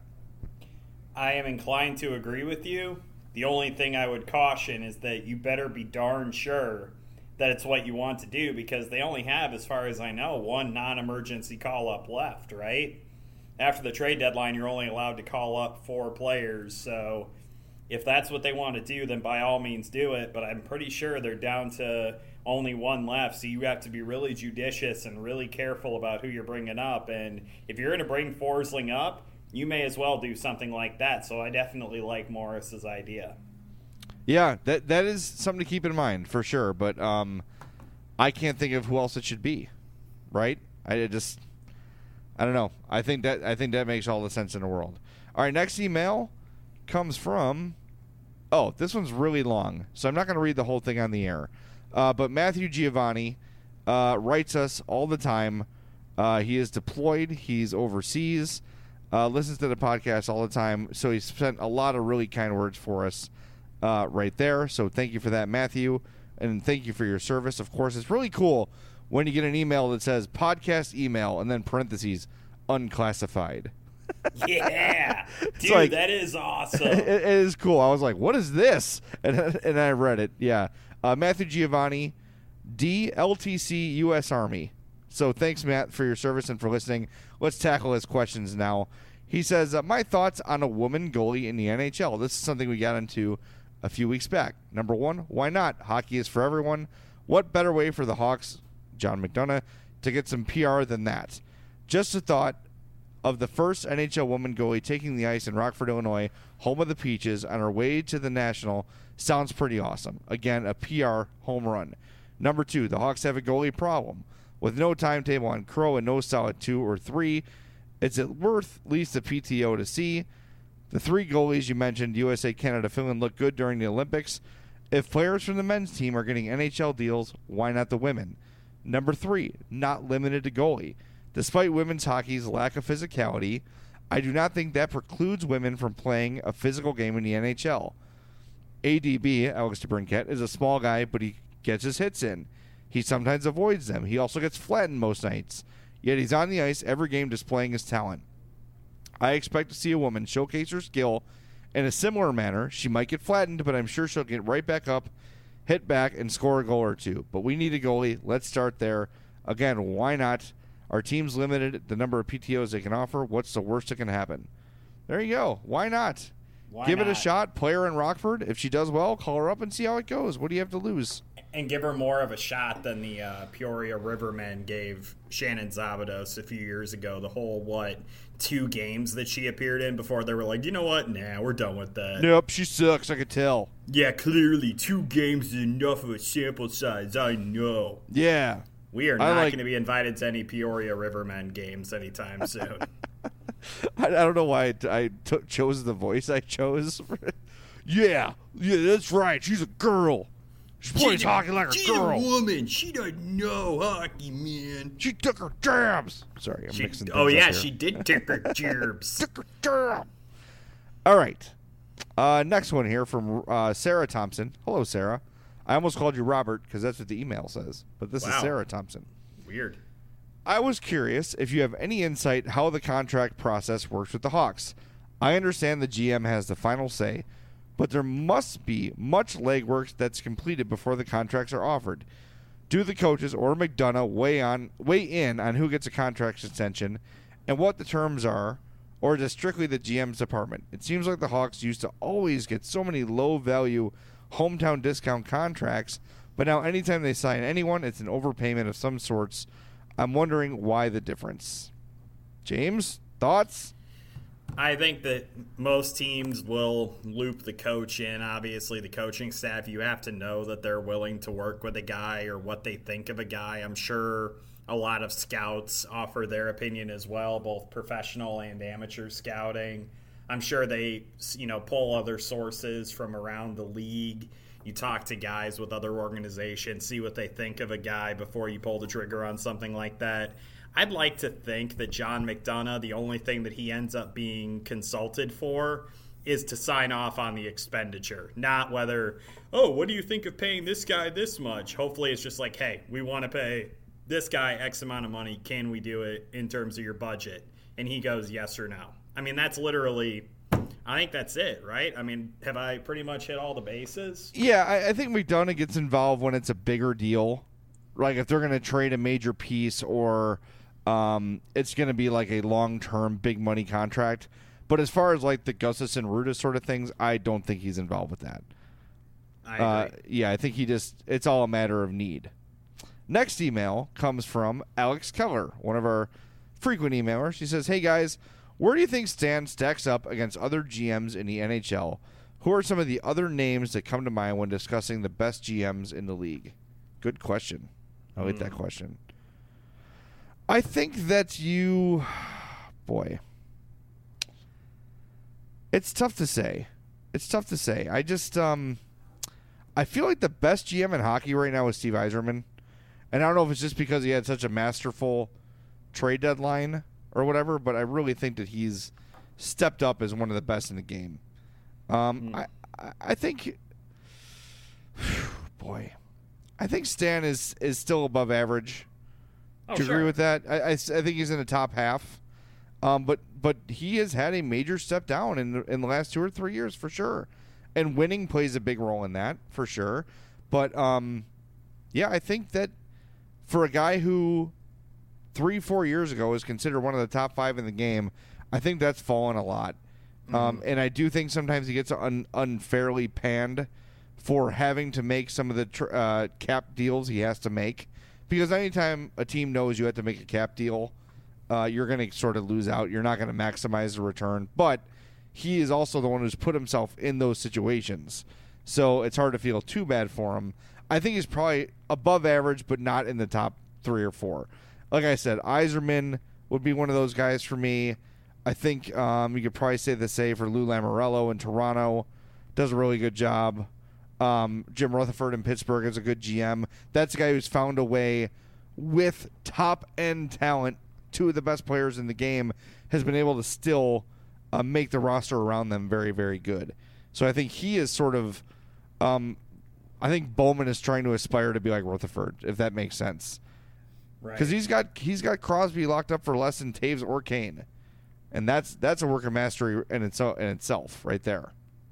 I am inclined to agree with you. The only thing I would caution is that you better be darn sure that it's what you want to do, because they only have, as far as I know, one non-emergency call-up left, right? After the trade deadline, you're only allowed to call up four players. So if that's what they want to do, then by all means do it. But I'm pretty sure they're down to only one left, so you have to be really judicious and really careful about who you're bringing up. And if you're going to bring Forsling up, you may as well do something like that. So I definitely like Morris's idea. Yeah, that that is something to keep in mind for sure. But um, I can't think of who else it should be, right? I just, I don't know. I think that I think that makes all the sense in the world. All right, next email comes from. Oh, this one's really long, so I'm not going to read the whole thing on the air. Uh, but Matthew Giovanni uh, writes us all the time. Uh, he is deployed. He's overseas. Uh, listens to the podcast all the time. So he sent a lot of really kind words for us. Uh, right there. So thank you for that, Matthew, and thank you for your service. Of course, it's really cool when you get an email that says podcast email and then parentheses unclassified. Yeah, dude, like, that is awesome. It, it is cool. I was like, what is this? And, and I read it. Yeah. Uh, Matthew Giovanni, D L T C U S Army. So thanks, Matt, for your service and for listening. Let's tackle his questions now. He says, uh, my thoughts on a woman goalie in the N H L. This is something we got into a few weeks back. Number one, why not? Hockey is for everyone. What better way for the Hawks, John McDonough, to get some P R than that? Just a thought of the first N H L woman goalie taking the ice in Rockford, Illinois, home of the Peaches, on her way to the National. Sounds pretty awesome. Again, a P R home run. Number two, the Hawks have a goalie problem. With no timetable on Crow and no solid two or three, it's worth at least a P T O to see. The three goalies you mentioned, U S A, Canada, Finland, look good during the Olympics. If players from the men's team are getting N H L deals, why not the women? Number three, not limited to goalie. Despite women's hockey's lack of physicality, I do not think that precludes women from playing a physical game in the N H L. A D B, Alex DeBrincat, is a small guy, but he gets his hits in. He sometimes avoids them. He also gets flattened most nights. Yet he's on the ice every game displaying his talent. I expect to see a woman showcase her skill in a similar manner. She might get flattened, but I'm sure she'll get right back up, hit back, and score a goal or two. But we need a goalie. Let's start there. Again, why not? Our team's limited the number of P T Os they can offer. What's the worst that can happen? There you go. Why not? Why Give not? it a shot. Play her in Rockford. If she does well, call her up and see how it goes. What do you have to lose? And give her more of a shot than the uh, Peoria Rivermen gave Shannon Zabados a few years ago. The whole, what, two games that she appeared in before they were like, you know what? Nah, we're done with that. Nope, she sucks. I could tell. Yeah, clearly two games is enough of a sample size. I know. Yeah. We are I not like- going to be invited to any Peoria Rivermen games anytime soon. I, I don't know why I, t- I t- chose the voice I chose. yeah, yeah, that's right. She's a girl. She plays she, hockey like a she's girl. A woman. She doesn't know hockey, man. She took her jabs. Sorry, I'm she, mixing things Oh, yeah, up here. she did take her jabs. Took her jab. All right. Uh, next one here from uh, Sarah Thompson. Hello, Sarah. I almost called you Robert because that's what the email says, but this Wow. is Sarah Thompson. Weird. I was curious if you have any insight how the contract process works with the Hawks. I understand the G M has the final say, but there must be much legwork that's completed before the contracts are offered. Do the coaches or McDonough weigh on weigh in on who gets a contract extension and what the terms are, or is it strictly the G M's department? It seems like the Hawks used to always get so many low-value hometown discount contracts, but now anytime they sign anyone, it's an overpayment of some sorts. I'm wondering why the difference. James, thoughts? I think that most teams will loop the coach in. Obviously, the coaching staff, you have to know that they're willing to work with a guy or what they think of a guy. I'm sure a lot of scouts offer their opinion as well, both professional and amateur scouting. I'm sure they, you know, pull other sources from around the league. You talk to guys with other organizations, see what they think of a guy before you pull the trigger on something like that. I'd like to think that John McDonough, the only thing that he ends up being consulted for is to sign off on the expenditure, not whether, oh, what do you think of paying this guy this much? Hopefully it's just like, hey, we want to pay this guy X amount of money. Can we do it in terms of your budget? And he goes yes or no. I mean, that's literally, I think that's it, right? I mean, have I pretty much hit all the bases? Yeah, I, I think McDonough gets involved when it's a bigger deal. Like if they're going to trade a major piece or um, it's going to be like a long-term big money contract. But as far as like the Gustafsson Ruda sort of things, I don't think he's involved with that. I Uh, agree. yeah, I think he just, it's all a matter of need. Next email comes from Alex Keller, one of our frequent emailers. She says, hey guys, where do you think Stan stacks up against other G Ms in the N H L? Who are some of the other names that come to mind when discussing the best G Ms in the league? Good question. I like that question. I think that you, boy, it's tough to say. It's tough to say. I just, um, I feel like the best G M in hockey right now is Steve Yzerman. And I don't know if it's just because he had such a masterful trade deadline or whatever, but I really think that he's stepped up as one of the best in the game. Um, mm. I, I, I think, boy, I think Stan is, is still above average. Oh, Do you sure. agree with that? I, I, I think he's in the top half. Um, but but he has had a major step down in the, in the last two or three years for sure. And winning plays a big role in that for sure. But, um, yeah, I think that for a guy who three, four years ago was considered one of the top five in the game, I think that's fallen a lot. Mm-hmm. Um, and I do think sometimes he gets un- unfairly panned for having to make some of the tr- uh, cap deals he has to make. Because anytime a team knows you have to make a cap deal, uh, you're going to sort of lose out. You're not going to maximize the return. But he is also the one who's put himself in those situations. So it's hard to feel too bad for him. I think he's probably above average, but not in the top three or four. Like I said, Yzerman would be one of those guys for me. I think um, you could probably say the same for Lou Lamoriello in Toronto. Does a really good job. Um, Jim Rutherford in Pittsburgh is a good G M. That's a guy who's found a way with top-end talent, two of the best players in the game, has been able to still uh, make the roster around them very, very good. So I think he is sort of um, – I think Bowman is trying to aspire to be like Rutherford, if that makes sense. Because Right. he's got he's got Crosby locked up for less than Taves or Kane. And that's that's a work of mastery in, its, in itself right there.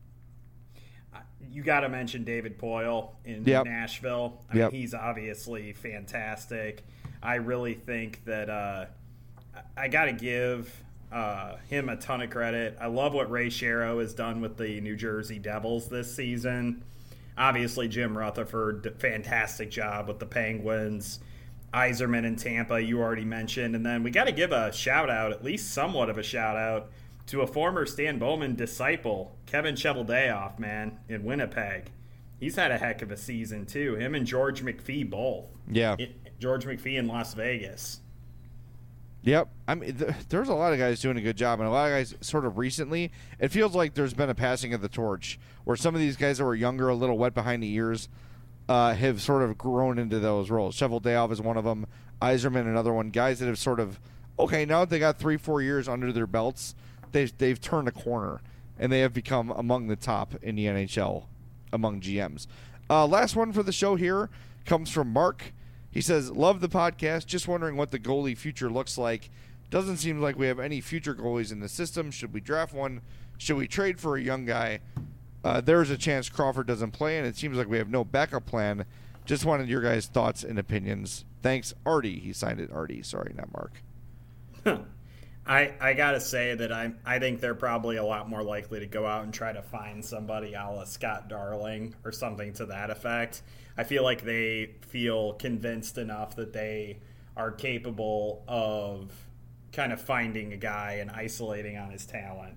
You got to mention David Poile in Yep. Nashville. I Yep. mean, he's obviously fantastic. I really think that uh, I got to give uh, him a ton of credit. I love what Ray Shero has done with the New Jersey Devils this season. Obviously, Jim Rutherford, fantastic job with the Penguins. Yzerman in Tampa, you already mentioned. And then we got to give a shout-out, at least somewhat of a shout-out, to a former Stan Bowman disciple, Kevin Cheveldayoff, man, in Winnipeg. He's had a heck of a season, too. Him and George McPhee both. Yeah. It, George McPhee in Las Vegas. Yep. I mean, th- there's a lot of guys doing a good job, and a lot of guys sort of recently, it feels like there's been a passing of the torch where some of these guys that were younger, a little wet behind the ears, uh, have sort of grown into those roles. Cheveldayoff is one of them. Yzerman, another one. Guys that have sort of, okay, now that they got three, four years under their belts, they've, they've turned a corner, and they have become among the top in the N H L among G Ms. Uh, last one for the show here comes from Mark. He says, love the podcast. Just wondering what the goalie future looks like. Doesn't seem like we have any future goalies in the system. Should we draft one? Should we trade for a young guy? Uh, there's a chance Crawford doesn't play, and it seems like we have no backup plan. Just wanted your guys' thoughts and opinions. Thanks, Artie. He signed it Artie. Sorry, not Mark. I I gotta say that I I think they're probably a lot more likely to go out and try to find somebody a la Scott Darling or something to that effect. I feel like they feel convinced enough that they are capable of kind of finding a guy and isolating on his talent.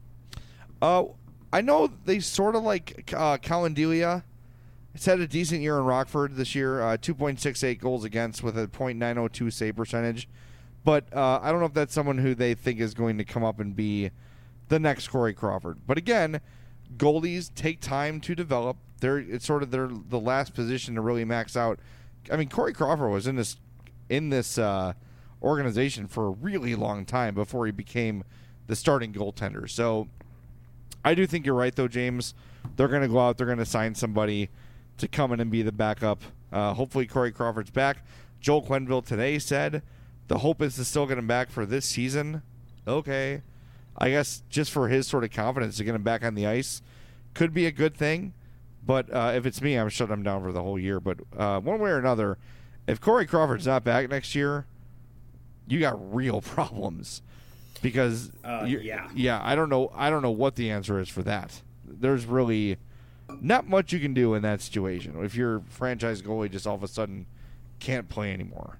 Uh, I know they sort of like uh, Calendelia. It's had a decent year in Rockford this year, uh, two point six eight goals against with a point nine oh two save percentage. But uh, I don't know if that's someone who they think is going to come up and be the next Corey Crawford. But again, goalies take time to develop. They're it's sort of their the last position to really max out. I mean, Corey Crawford was in this in this uh, organization for a really long time before he became the starting goaltender. So I do think you're right, though, James. They're going to go out. They're going to sign somebody to come in and be the backup. Uh, hopefully, Corey Crawford's back. Joel Quenneville today said the hope is to still get him back for this season. Okay. I guess just for his sort of confidence to get him back on the ice could be a good thing. But uh, if it's me, I'm shutting him down for the whole year. But uh, one way or another, if Corey Crawford's not back next year, you got real problems. Because uh, yeah, yeah, I don't know, I don't know what the answer is for that. There's really not much you can do in that situation if your franchise goalie just all of a sudden can't play anymore.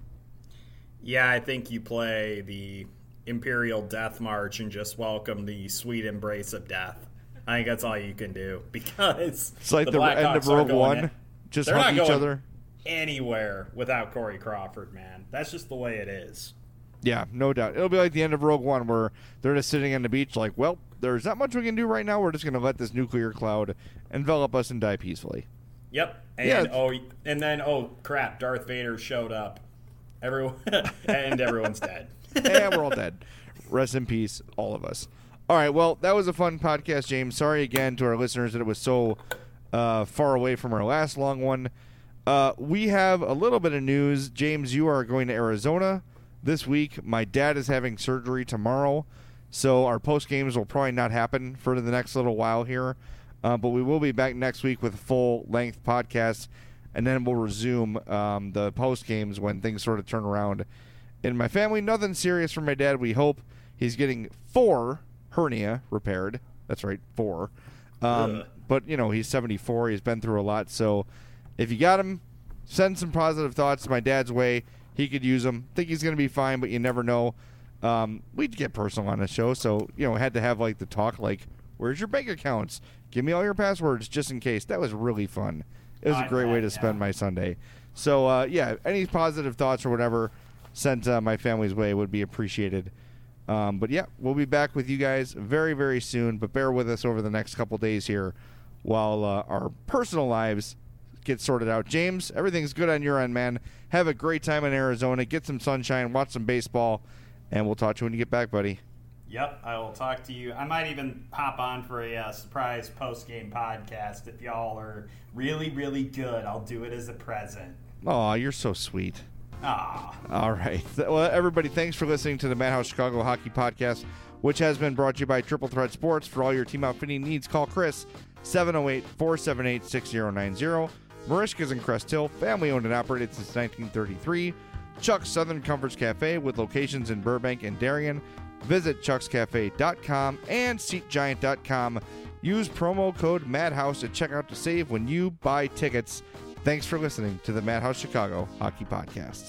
Yeah, I think you play the Imperial Death March and just welcome the sweet embrace of death. I think that's all you can do because it's like the, the end of Rogue One. In, just hug each other anywhere without Corey Crawford, man. That's just the way it is. Yeah, no doubt. It'll be like the end of Rogue One where they're just sitting on the beach like, well, there's not much we can do right now. We're just going to let this nuclear cloud envelop us and die peacefully. Yep. And yeah. oh, and then, oh, crap, Darth Vader showed up. Everyone, and everyone's dead. And we're all dead. Rest in peace, all of us. All right, well, that was a fun podcast, James. Sorry again to our listeners that it was so uh, far away from our last long one. Uh, we have a little bit of news. James, you are going to Arizona this week. My dad is having surgery tomorrow, so our post games will probably not happen for the next little while here. Uh, but we will be back next week with a full-length podcast, and then we'll resume um, the post games when things sort of turn around in my family. Nothing serious for my dad. We hope he's getting four hernia repaired. That's right, four. Um, but, you know, he's seventy-four. He's been through a lot. So if you got him, send some positive thoughts my dad's way. He could use them. Think he's going to be fine, but you never know. Um, we'd get personal on the show, so, you know, had to have, like, the talk, like, where's your bank accounts? Give me all your passwords just in case. That was really fun. It was a great way to spend my Sunday. So, uh, yeah, any positive thoughts or whatever sent uh, my family's way would be appreciated. Um, but, yeah, we'll be back with you guys very, very soon. But bear with us over the next couple days here while uh, our personal lives get sorted out. James, everything's good on your end, man. Have a great time in Arizona. Get some sunshine. Watch some baseball. And we'll talk to you when you get back, buddy. Yep, I will talk to you. I might even hop on for a uh, surprise post-game podcast. If y'all are really, really good, I'll do it as a present. Aw, you're so sweet. Aw. All right. Well, everybody, thanks for listening to the Madhouse Chicago Hockey Podcast, which has been brought to you by Triple Threat Sports. For all your team outfitting needs, call Chris, seven oh eight, four seven eight, six oh nine oh. Marishka's in Crest Hill, family-owned and operated since nineteen thirty-three. Chuck's Southern Comforts Cafe with locations in Burbank and Darien. Visit chucks cafe dot com and seat giant dot com. Use promo code MADHOUSE at checkout to save when you buy tickets. Thanks for listening to the Madhouse Chicago Hockey Podcast.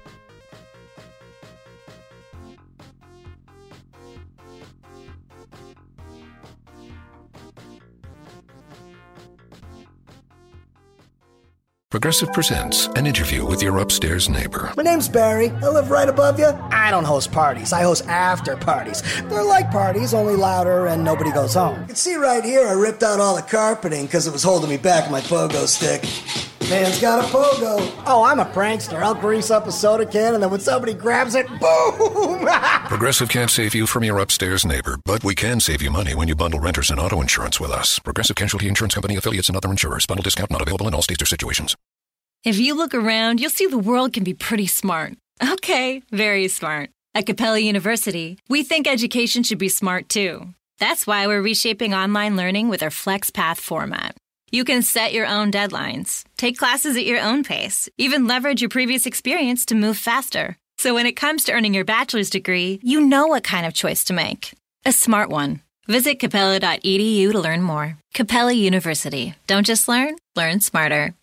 Progressive presents an interview with your upstairs neighbor. My name's Barry. I live right above you. I don't host parties. I host after parties. They're like parties, only louder and nobody goes home. You can see right here I ripped out all the carpeting because it was holding me back with my pogo stick. Man's got a pogo. Oh, I'm a prankster. I'll grease up a soda can, and then when somebody grabs it, boom! Progressive can't save you from your upstairs neighbor, but we can save you money when you bundle renters and auto insurance with us. Progressive Casualty Insurance Company affiliates and other insurers. Bundle discount not available in all states or situations. If you look around, you'll see the world can be pretty smart. Okay, very smart. At Capella University, we think education should be smart too. That's why we're reshaping online learning with our FlexPath format. You can set your own deadlines, take classes at your own pace, even leverage your previous experience to move faster. So when it comes to earning your bachelor's degree, you know what kind of choice to make. A smart one. Visit capella dot e d u to learn more. Capella University. Don't just learn, learn smarter.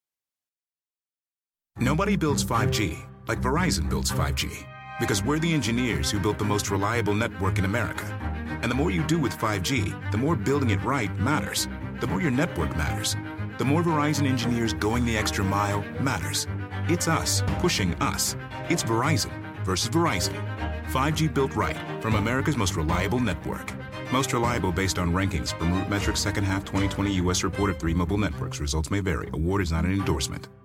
Nobody builds five G like Verizon builds five G. Because we're the engineers who built the most reliable network in America. And the more you do with five G, the more building it right matters. The more your network matters. The more Verizon engineers going the extra mile matters. It's us pushing us. It's Verizon versus Verizon. five G built right from America's most reliable network. Most reliable based on rankings from RootMetrics second half twenty twenty U S report of three mobile networks. Results may vary. Award is not an endorsement.